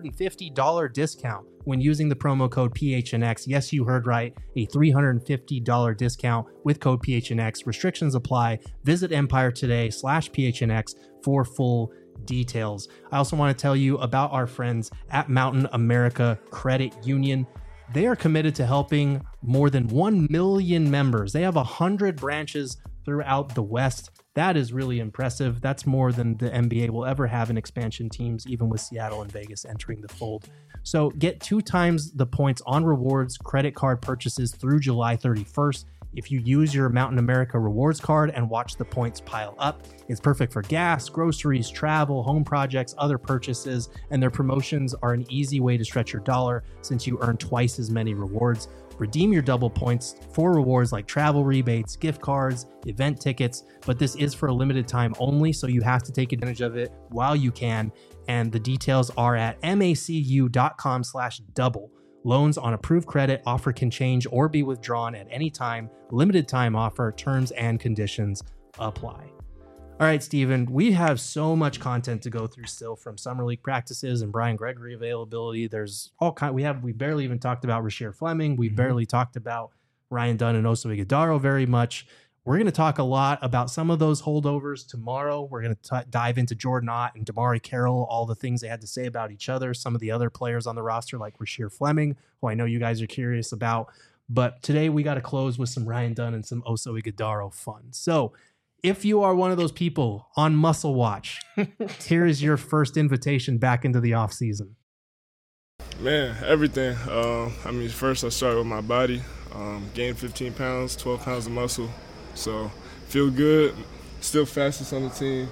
$350 discount when using the promo code PHNX. Yes, you heard right. A $350 discount with code PHNX. Restrictions apply. Visit EmpireToday.com/PHNX for full details. I also want to tell you about our friends at Mountain America Credit Union. They are committed to helping more than 1 million members. They have 100 branches throughout the West. That is really impressive. That's more than the NBA will ever have in expansion teams, even with Seattle and Vegas entering the fold. So get 2 times the points on rewards credit card purchases through July 31st. If you use your Mountain America rewards card and watch the points pile up, it's perfect for gas, groceries, travel, home projects, other purchases, and their promotions are an easy way to stretch your dollar since you earn twice as many rewards. Redeem your double points for rewards like travel rebates, gift cards, event tickets, but this is for a limited time only, so you have to take advantage of it while you can, and the details are at macu.com/double. Loans on approved credit offer can change or be withdrawn at any time. Limited time offer. Terms and conditions apply. All right, Steven, we have so much content to go through still from Summer League practices and Brian Gregory availability. There's all kind. We barely even talked about Rasheer Fleming. We barely talked about Ryan Dunn and Oso Ighodaro very much. We're going to talk a lot about some of those holdovers tomorrow. We're going to dive into Jordan Ott and Damari Carroll, all the things they had to say about each other, some of the other players on the roster like Rasheer Fleming, who I know you guys are curious about. But today we got to close with some Ryan Dunn and some Oso Ighodaro fun. So if you are one of those people on Muscle Watch, here is your first invitation back into the offseason. Man, everything. First I started with my body, gained 15 pounds, 12 pounds of muscle. So feel good, still fastest on the team.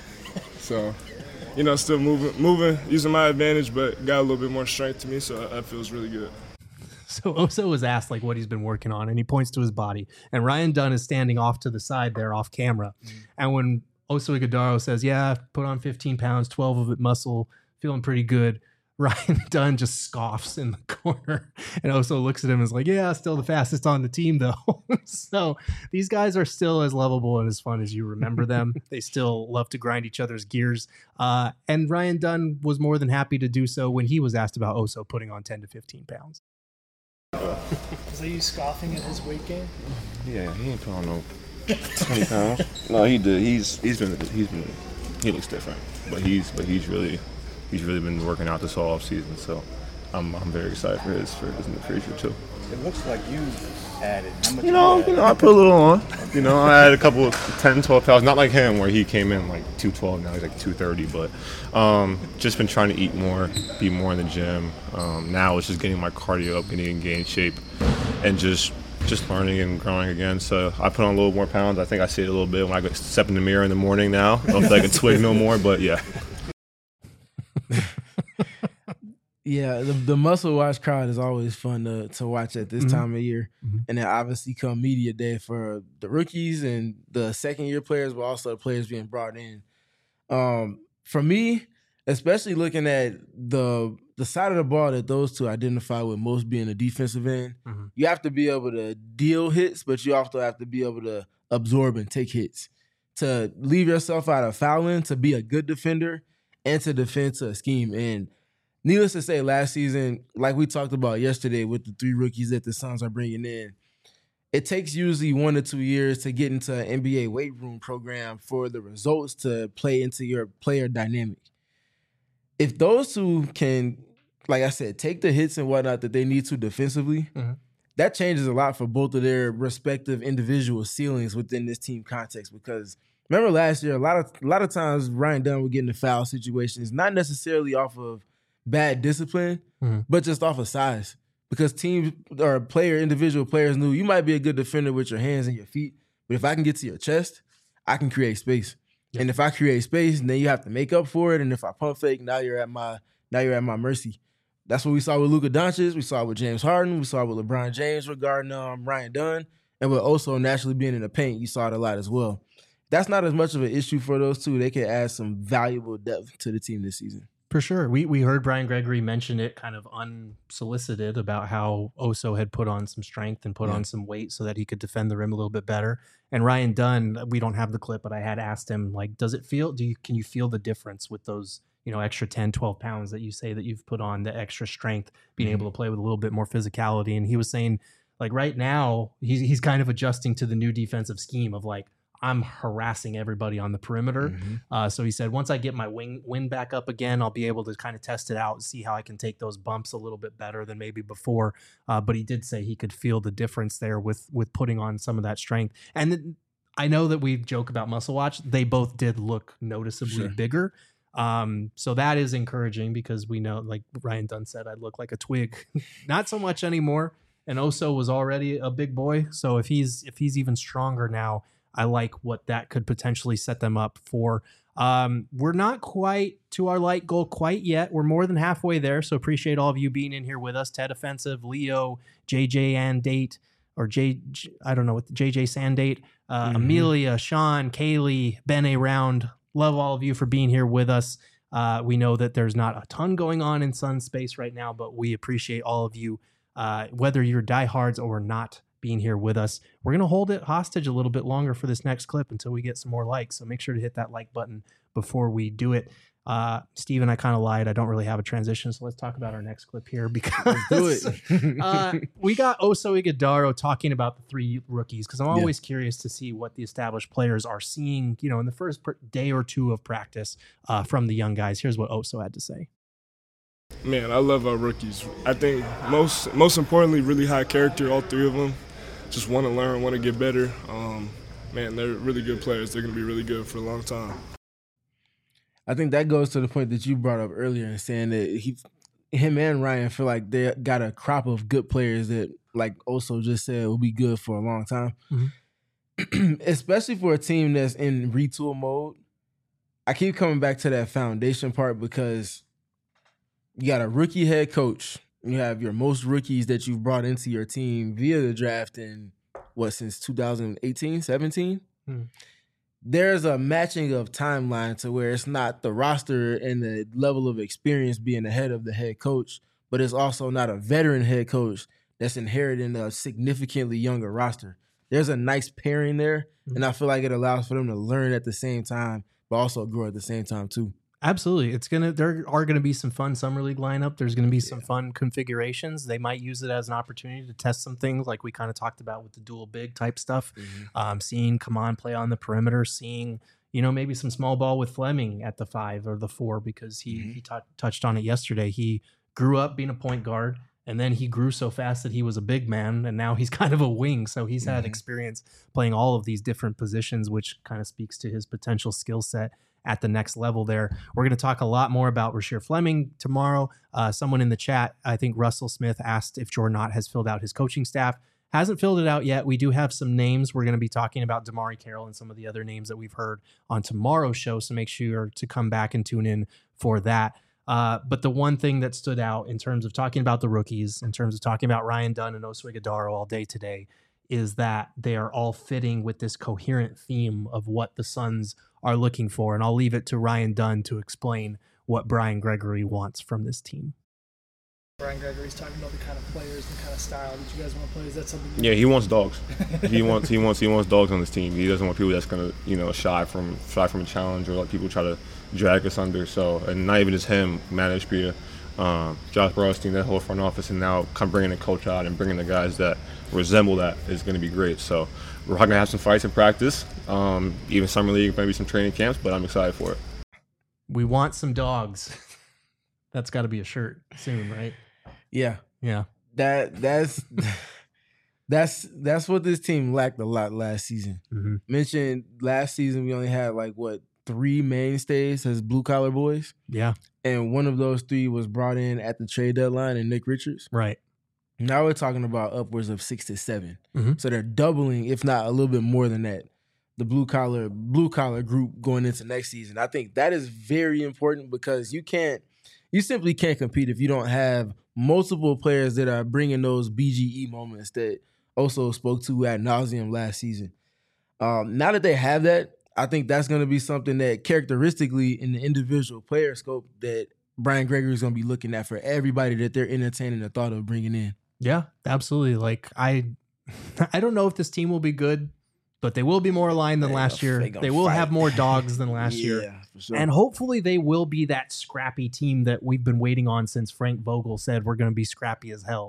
So, still moving, using my advantage, but got a little bit more strength to me, so that feels really good. So Oso was asked what he's been working on, and he points to his body. And Ryan Dunn is standing off to the side there off camera. And when Oso Ighodaro says, yeah, put on 15 pounds, 12 of it muscle, feeling pretty good, Ryan Dunn just scoffs in the corner and also looks at him and is like, yeah, still the fastest on the team, though. So these guys are still as lovable and as fun as you remember them. They still love to grind each other's gears. And Ryan Dunn was more than happy to do so when he was asked about Oso putting on 10 to 15 pounds. Was that you scoffing at his weight gain? Yeah, he ain't put on no 20 pounds. No, he did. He looks different, but he's really been working out this whole off season. So I'm very excited for his in the future too. It looks like you added. How much you know, I put a little on. You know, I had a couple of 10, 12 pounds. Not like him, where he came in like 212. Now he's like 230. But just been trying to eat more, be more in the gym. Now it's just getting my cardio up, getting in game shape, and just learning and growing again. So I put on a little more pounds. I think I see it a little bit when I step in the mirror in the morning now. I don't feel like a twig no more, but yeah. Yeah, the Muscle Watch crowd is always fun to watch at this time of year. And then obviously come media day for the rookies and the second-year players, but also the players being brought in. For me, especially looking at the side of the ball that those two identify with most being the defensive end, you have to be able to deal hits, but you also have to be able to absorb and take hits. To leave yourself out of fouling, to be a good defender, and to defend to a scheme. And needless to say, last season, like we talked about yesterday with the 3 rookies that the Suns are bringing in, it takes usually 1 to 2 years to get into an NBA weight room program for the results to play into your player dynamic. If those two can, like I said, take the hits and whatnot that they need to defensively, that changes a lot for both of their respective individual ceilings within this team context. Because remember last year, a lot of times Ryan Dunn would get into foul situations, not necessarily off of bad discipline, but just off of size. Because teams or individual players knew you might be a good defender with your hands and your feet, but if I can get to your chest, I can create space. Yep. And if I create space, then you have to make up for it. And if I pump fake, now you're at my mercy. That's what we saw with Luka Doncic. We saw with James Harden. We saw with LeBron James regarding Ryan Dunn. And with also naturally being in the paint, you saw it a lot as well. That's not as much of an issue for those two. They can add some valuable depth to the team this season. For sure. We heard Brian Gregory mention it kind of unsolicited about how Oso had put on some strength and put on some weight so that he could defend the rim a little bit better. And Ryan Dunn, we don't have the clip, but I had asked him, like, can you feel the difference with those, extra 10, 12 pounds that you say that you've put on, the extra strength, being able to play with a little bit more physicality? And he was saying, like, right now, he's kind of adjusting to the new defensive scheme of, like, I'm harassing everybody on the perimeter. So he said, once I get my wind back up again, I'll be able to kind of test it out and see how I can take those bumps a little bit better than maybe before. But he did say he could feel the difference there with putting on some of that strength. And then, I know that we joke about Muscle Watch. They both did look noticeably bigger. So that is encouraging because we know, like Ryan Dunn said, I look like a twig. Not so much anymore. And Oso was already a big boy. So if he's even stronger now, I like what that could potentially set them up for. We're not quite to our light goal quite yet. We're more than halfway there. So appreciate all of you being in here with us. Ted Offensive, Leo, JJ Andate, or JJ Sandate, Amelia, Sean, Kaylee, Ben A. Round. Love all of you for being here with us. We know that there's not a ton going on in Sun space right now, but we appreciate all of you, whether you're diehards or not, being here with us. We're going to hold it hostage a little bit longer for this next clip until we get some more likes. So make sure to hit that like button before we do it. Steven, I kind of lied. I don't really have a transition. So let's talk about our next clip here because let's do it. We got Oso Ighodaro talking about the 3 rookies because I'm always curious to see what the established players are seeing, in the first day or 2 of practice from the young guys. Here's what Oso had to say. Man, I love our rookies. I think most importantly, really high character, all 3 of them. Just want to learn, want to get better. Man, they're really good players. They're going to be really good for a long time. I think that goes to the point that you brought up earlier in saying that him and Ryan feel like they got a crop of good players that, like Oso just said, will be good for a long time. Especially for a team that's in retool mode. I keep coming back to that foundation part because you got a rookie head coach. You have your most rookies that you've brought into your team via the draft in, since 2018, 17? there's a matching of timeline to where it's not the roster and the level of experience being ahead of the head coach, but it's also not a veteran head coach that's inheriting a significantly younger roster. There's a nice pairing there, and I feel like it allows for them to learn at the same time, but also grow at the same time too. Absolutely. There are gonna be some fun summer league lineup. There's gonna be some fun configurations. They might use it as an opportunity to test some things like we kind of talked about with the dual big type stuff. Seeing Kaman play on the perimeter, seeing, maybe some small ball with Fleming at the 5 or the 4, because he touched on it yesterday. He grew up being a point guard, and then he grew so fast that he was a big man, and now he's kind of a wing. So he's had experience playing all of these different positions, which kind of speaks to his potential skill set at the next level there. We're going to talk a lot more about Rasheer Fleming tomorrow. Someone in the chat, I think Russell Smith, asked if Jordan Knott has filled out his coaching staff. Hasn't filled it out yet. We do have some names. We're going to be talking about Damari Carroll and some of the other names that we've heard on tomorrow's show, so make sure to come back and tune in for that. But the one thing that stood out in terms of talking about the rookies, in terms of talking about Ryan Dunn and Oswe Ighodaro all day today, is that they are all fitting with this coherent theme of what the Suns are looking for. And I'll leave it to Ryan Dunn to explain what Brian Gregory wants from this team. Brian Gregory's talking about the kind of players, the kind of style that you guys want to play. Is that something? Yeah, he wants dogs. he wants dogs on this team. He doesn't want people that's gonna shy from a challenge or let people try to drag us under. So, and not even just him, Matt Ishbia, Josh Brownstein, that whole front office, and now come bringing the coach out and bringing the guys that resemble that is going to be great. So we're going to have some fights in practice, even summer league, maybe some training camps, but I'm excited for it. We want some dogs. That's got to be a shirt soon, right? Yeah. That's what this team lacked a lot last season. Mentioned last season we only had 3 mainstays as blue collar boys. Yeah. And one of those 3 was brought in at the trade deadline, and Nick Richards. Right. Now we're talking about upwards of 6 to 7. So they're doubling, if not a little bit more than that, the blue collar group going into next season. I think that is very important because you simply can't compete if you don't have multiple players that are bringing those BGE moments that Oso spoke to ad nauseum last season. Now that they have that, I think that's going to be something that characteristically in the individual player scope that Brian Gregory is going to be looking at for everybody that they're entertaining the thought of bringing in. Yeah, absolutely. I don't know if this team will be good, but they will be more aligned than last year. They will have more dogs than last year. For sure. And hopefully they will be that scrappy team that we've been waiting on since Frank Vogel said we're going to be scrappy as hell.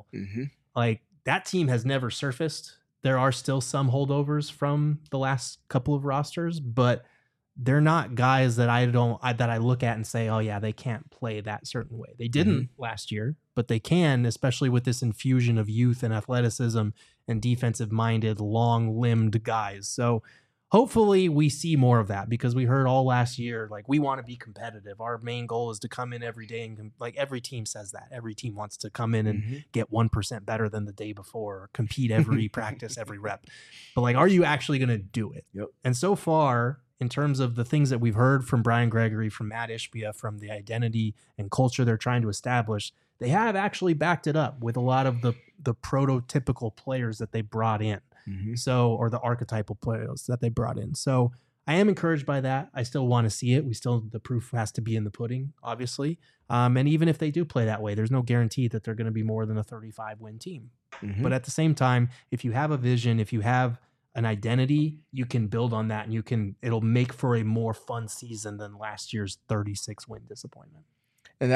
That team has never surfaced. There are still some holdovers from the last couple of rosters, but they're not guys that I look at and say, oh yeah, they can't play that certain way. They didn't last year, but they can, especially with this infusion of youth and athleticism and defensive-minded, long-limbed guys. So hopefully we see more of that, because we heard all last year, we want to be competitive. Our main goal is to come in every day and every team says that. Every team wants to come in and get 1% better than the day before, or compete every practice, every rep. But are you actually going to do it? Yep. And so far, in terms of the things that we've heard from Brian Gregory, from Matt Ishbia, from the identity and culture they're trying to establish, they have actually backed it up with a lot of the prototypical players that they brought in. So, or the archetypal players that they brought in. So I am encouraged by that. I still want to see it. The proof has to be in the pudding, obviously. And even if they do play that way, there's no guarantee that they're going to be more than a 35-win team. But at the same time, if you have a vision, if you have an identity, you can build on that, and it'll make for a more fun season than last year's 36-win disappointment. And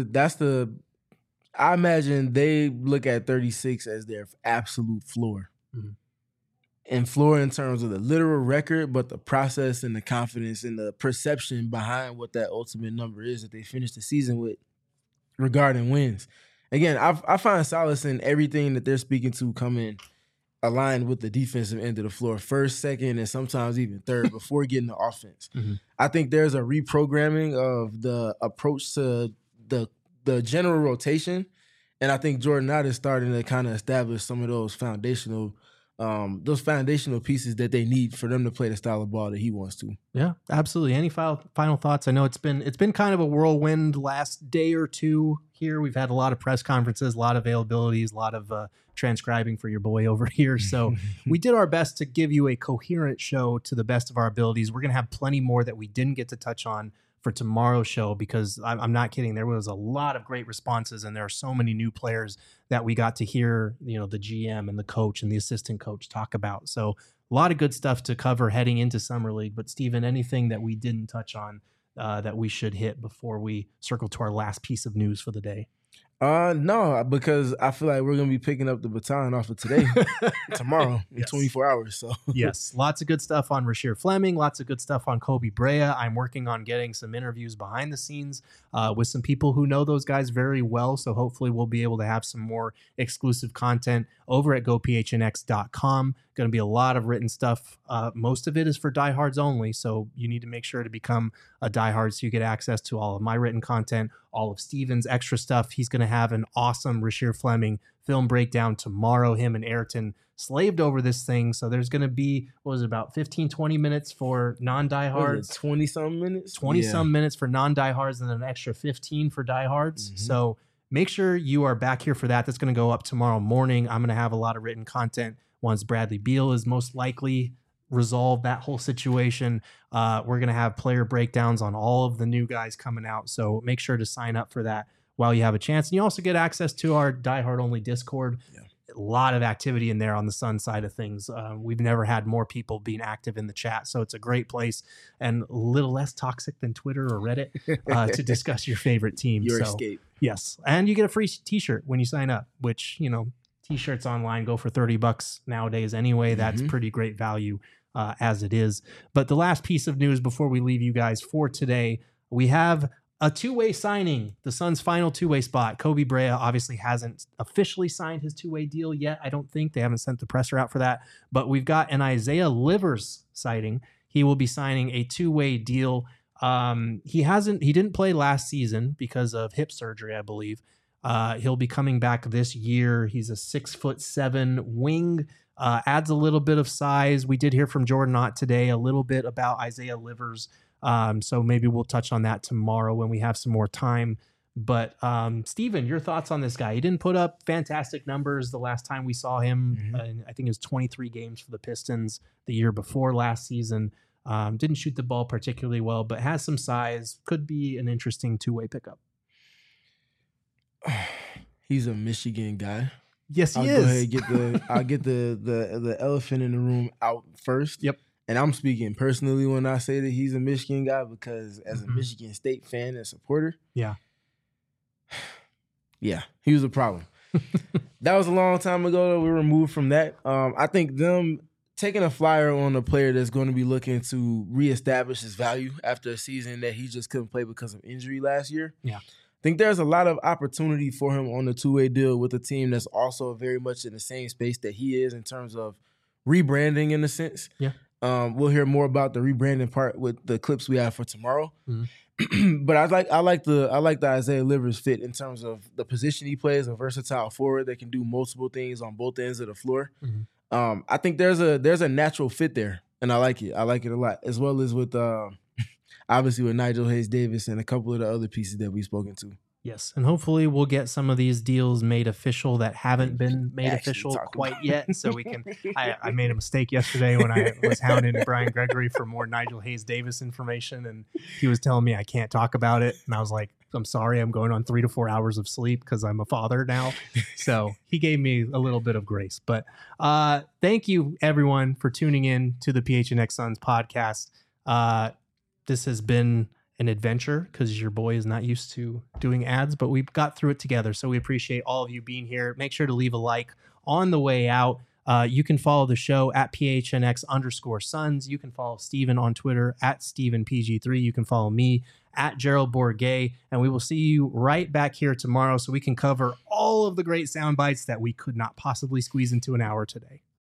I imagine they look at 36 as their absolute floor. And floor in terms of the literal record, but the process and the confidence and the perception behind what that ultimate number is that they finish the season with regarding wins. Again, I find solace in everything that they're speaking to coming aligned with the defensive end of the floor, first, second, and sometimes even third before getting the offense. I think there's a reprogramming of the approach to the general rotation, and I think Jordan Knott is starting to kind of establish some of those foundational those foundational pieces that they need for them to play the style of ball that he wants to. Yeah, absolutely. Any final thoughts? I know it's been kind of a whirlwind last day or two here. We've had a lot of press conferences, a lot of availabilities, a lot of transcribing for your boy over here. So we did our best to give you a coherent show to the best of our abilities. We're going to have plenty more that we didn't get to touch on for tomorrow's show, because I'm not kidding. There was a lot of great responses, and there are so many new players that we got to hear, the GM and the coach and the assistant coach talk about. So a lot of good stuff to cover heading into Summer League. But Steven, anything that we didn't touch on that we should hit before we circle to our last piece of news for the day? No, because I feel like we're going to be picking up the baton off of today, tomorrow, in 24 hours. So yes, lots of good stuff on Rasheer Fleming, lots of good stuff on Kobe Brea. I'm working on getting some interviews behind the scenes with some people who know those guys very well. So hopefully we'll be able to have some more exclusive content over at gophnx.com. Going to be a lot of written stuff. Most of it is for diehards only. So you need to make sure to become a diehard so you get access to all of my written content, all of Steven's extra stuff. He's going to have an awesome Rasheer Fleming film breakdown tomorrow. Him and Ayrton slaved over this thing. So there's going to be, about 15, 20 minutes for non-diehards. 20-some minutes? 20-some minutes for non-diehards, and then an extra 15 for diehards. Mm-hmm. So make sure you are back here for that. That's going to go up tomorrow morning. I'm going to have a lot of written content once Bradley Beal is most likely resolved that whole situation. We're going to have player breakdowns on all of the new guys coming out. So make sure to sign up for that while you have a chance. And you also get access to our diehard only Discord. Yeah. A lot of activity in there on the Sun side of things. We've never had more people being active in the chat. So it's a great place and a little less toxic than Twitter or Reddit to discuss your favorite team. Your escape. Yes. And you get a free t-shirt when you sign up, which, t-shirts online go for $30 nowadays anyway. That's pretty great value as it is. But the last piece of news before we leave you guys for today, we have a two-way signing, the Suns' final two-way spot. Kobe Brea obviously hasn't officially signed his two-way deal yet. I don't think they haven't sent the presser out for that, but we've got an Isaiah Livers sighting. He will be signing a two-way deal. He didn't play last season because of hip surgery, I believe. He'll be coming back this year. He's a 6'7" wing, adds a little bit of size. We did hear from Jordan Ott today a little bit about Isaiah Livers. So maybe we'll touch on that tomorrow when we have some more time. But Steven, your thoughts on this guy? He didn't put up fantastic numbers the last time we saw him. I think it was 23 games for the Pistons the year before last season. Didn't shoot the ball particularly well, but has some size. Could be an interesting two-way pickup. He's a Michigan guy. Yes, he is. Go ahead, I'll get the elephant in the room out first. Yep. And I'm speaking personally when I say that he's a Michigan guy, because as a Michigan State fan and supporter, yeah, he was a problem. That was a long time ago that we were removed from that. I think them taking a flyer on a player that's going to be looking to reestablish his value after a season that he just couldn't play because of injury last year. Yeah. I think there's a lot of opportunity for him on the two-way deal with a team that's also very much in the same space that he is in terms of rebranding in a sense. Yeah. We'll hear more about the rebranding part with the clips we have for tomorrow. But I like the Isaiah Livers fit in terms of the position he plays, a versatile forward that can do multiple things on both ends of the floor. I think there's a natural fit there, and I like it. I like it a lot, as well as with obviously with Nigel Hayes-Davis and a couple of the other pieces that we've spoken to. Yes, and hopefully we'll get some of these deals made official that haven't been made official quite yet. So we can. I made a mistake yesterday when I was hounding Brian Gregory for more Nigel Hayes-Davis information, and he was telling me I can't talk about it, and I was like, I'm sorry, I'm going on 3 to 4 hours of sleep because I'm a father now. So he gave me a little bit of grace. But thank you, everyone, for tuning in to the PHNX Suns podcast. This has been an adventure because your boy is not used to doing ads, but we've got through it together. So we appreciate all of you being here. Make sure to leave a like on the way out. You can follow the show at PHNX_Suns. You can follow Steven on Twitter at StevenPG3. You can follow me at Gerald Bourget. And we will see you right back here tomorrow so we can cover all of the great sound bites that we could not possibly squeeze into an hour today.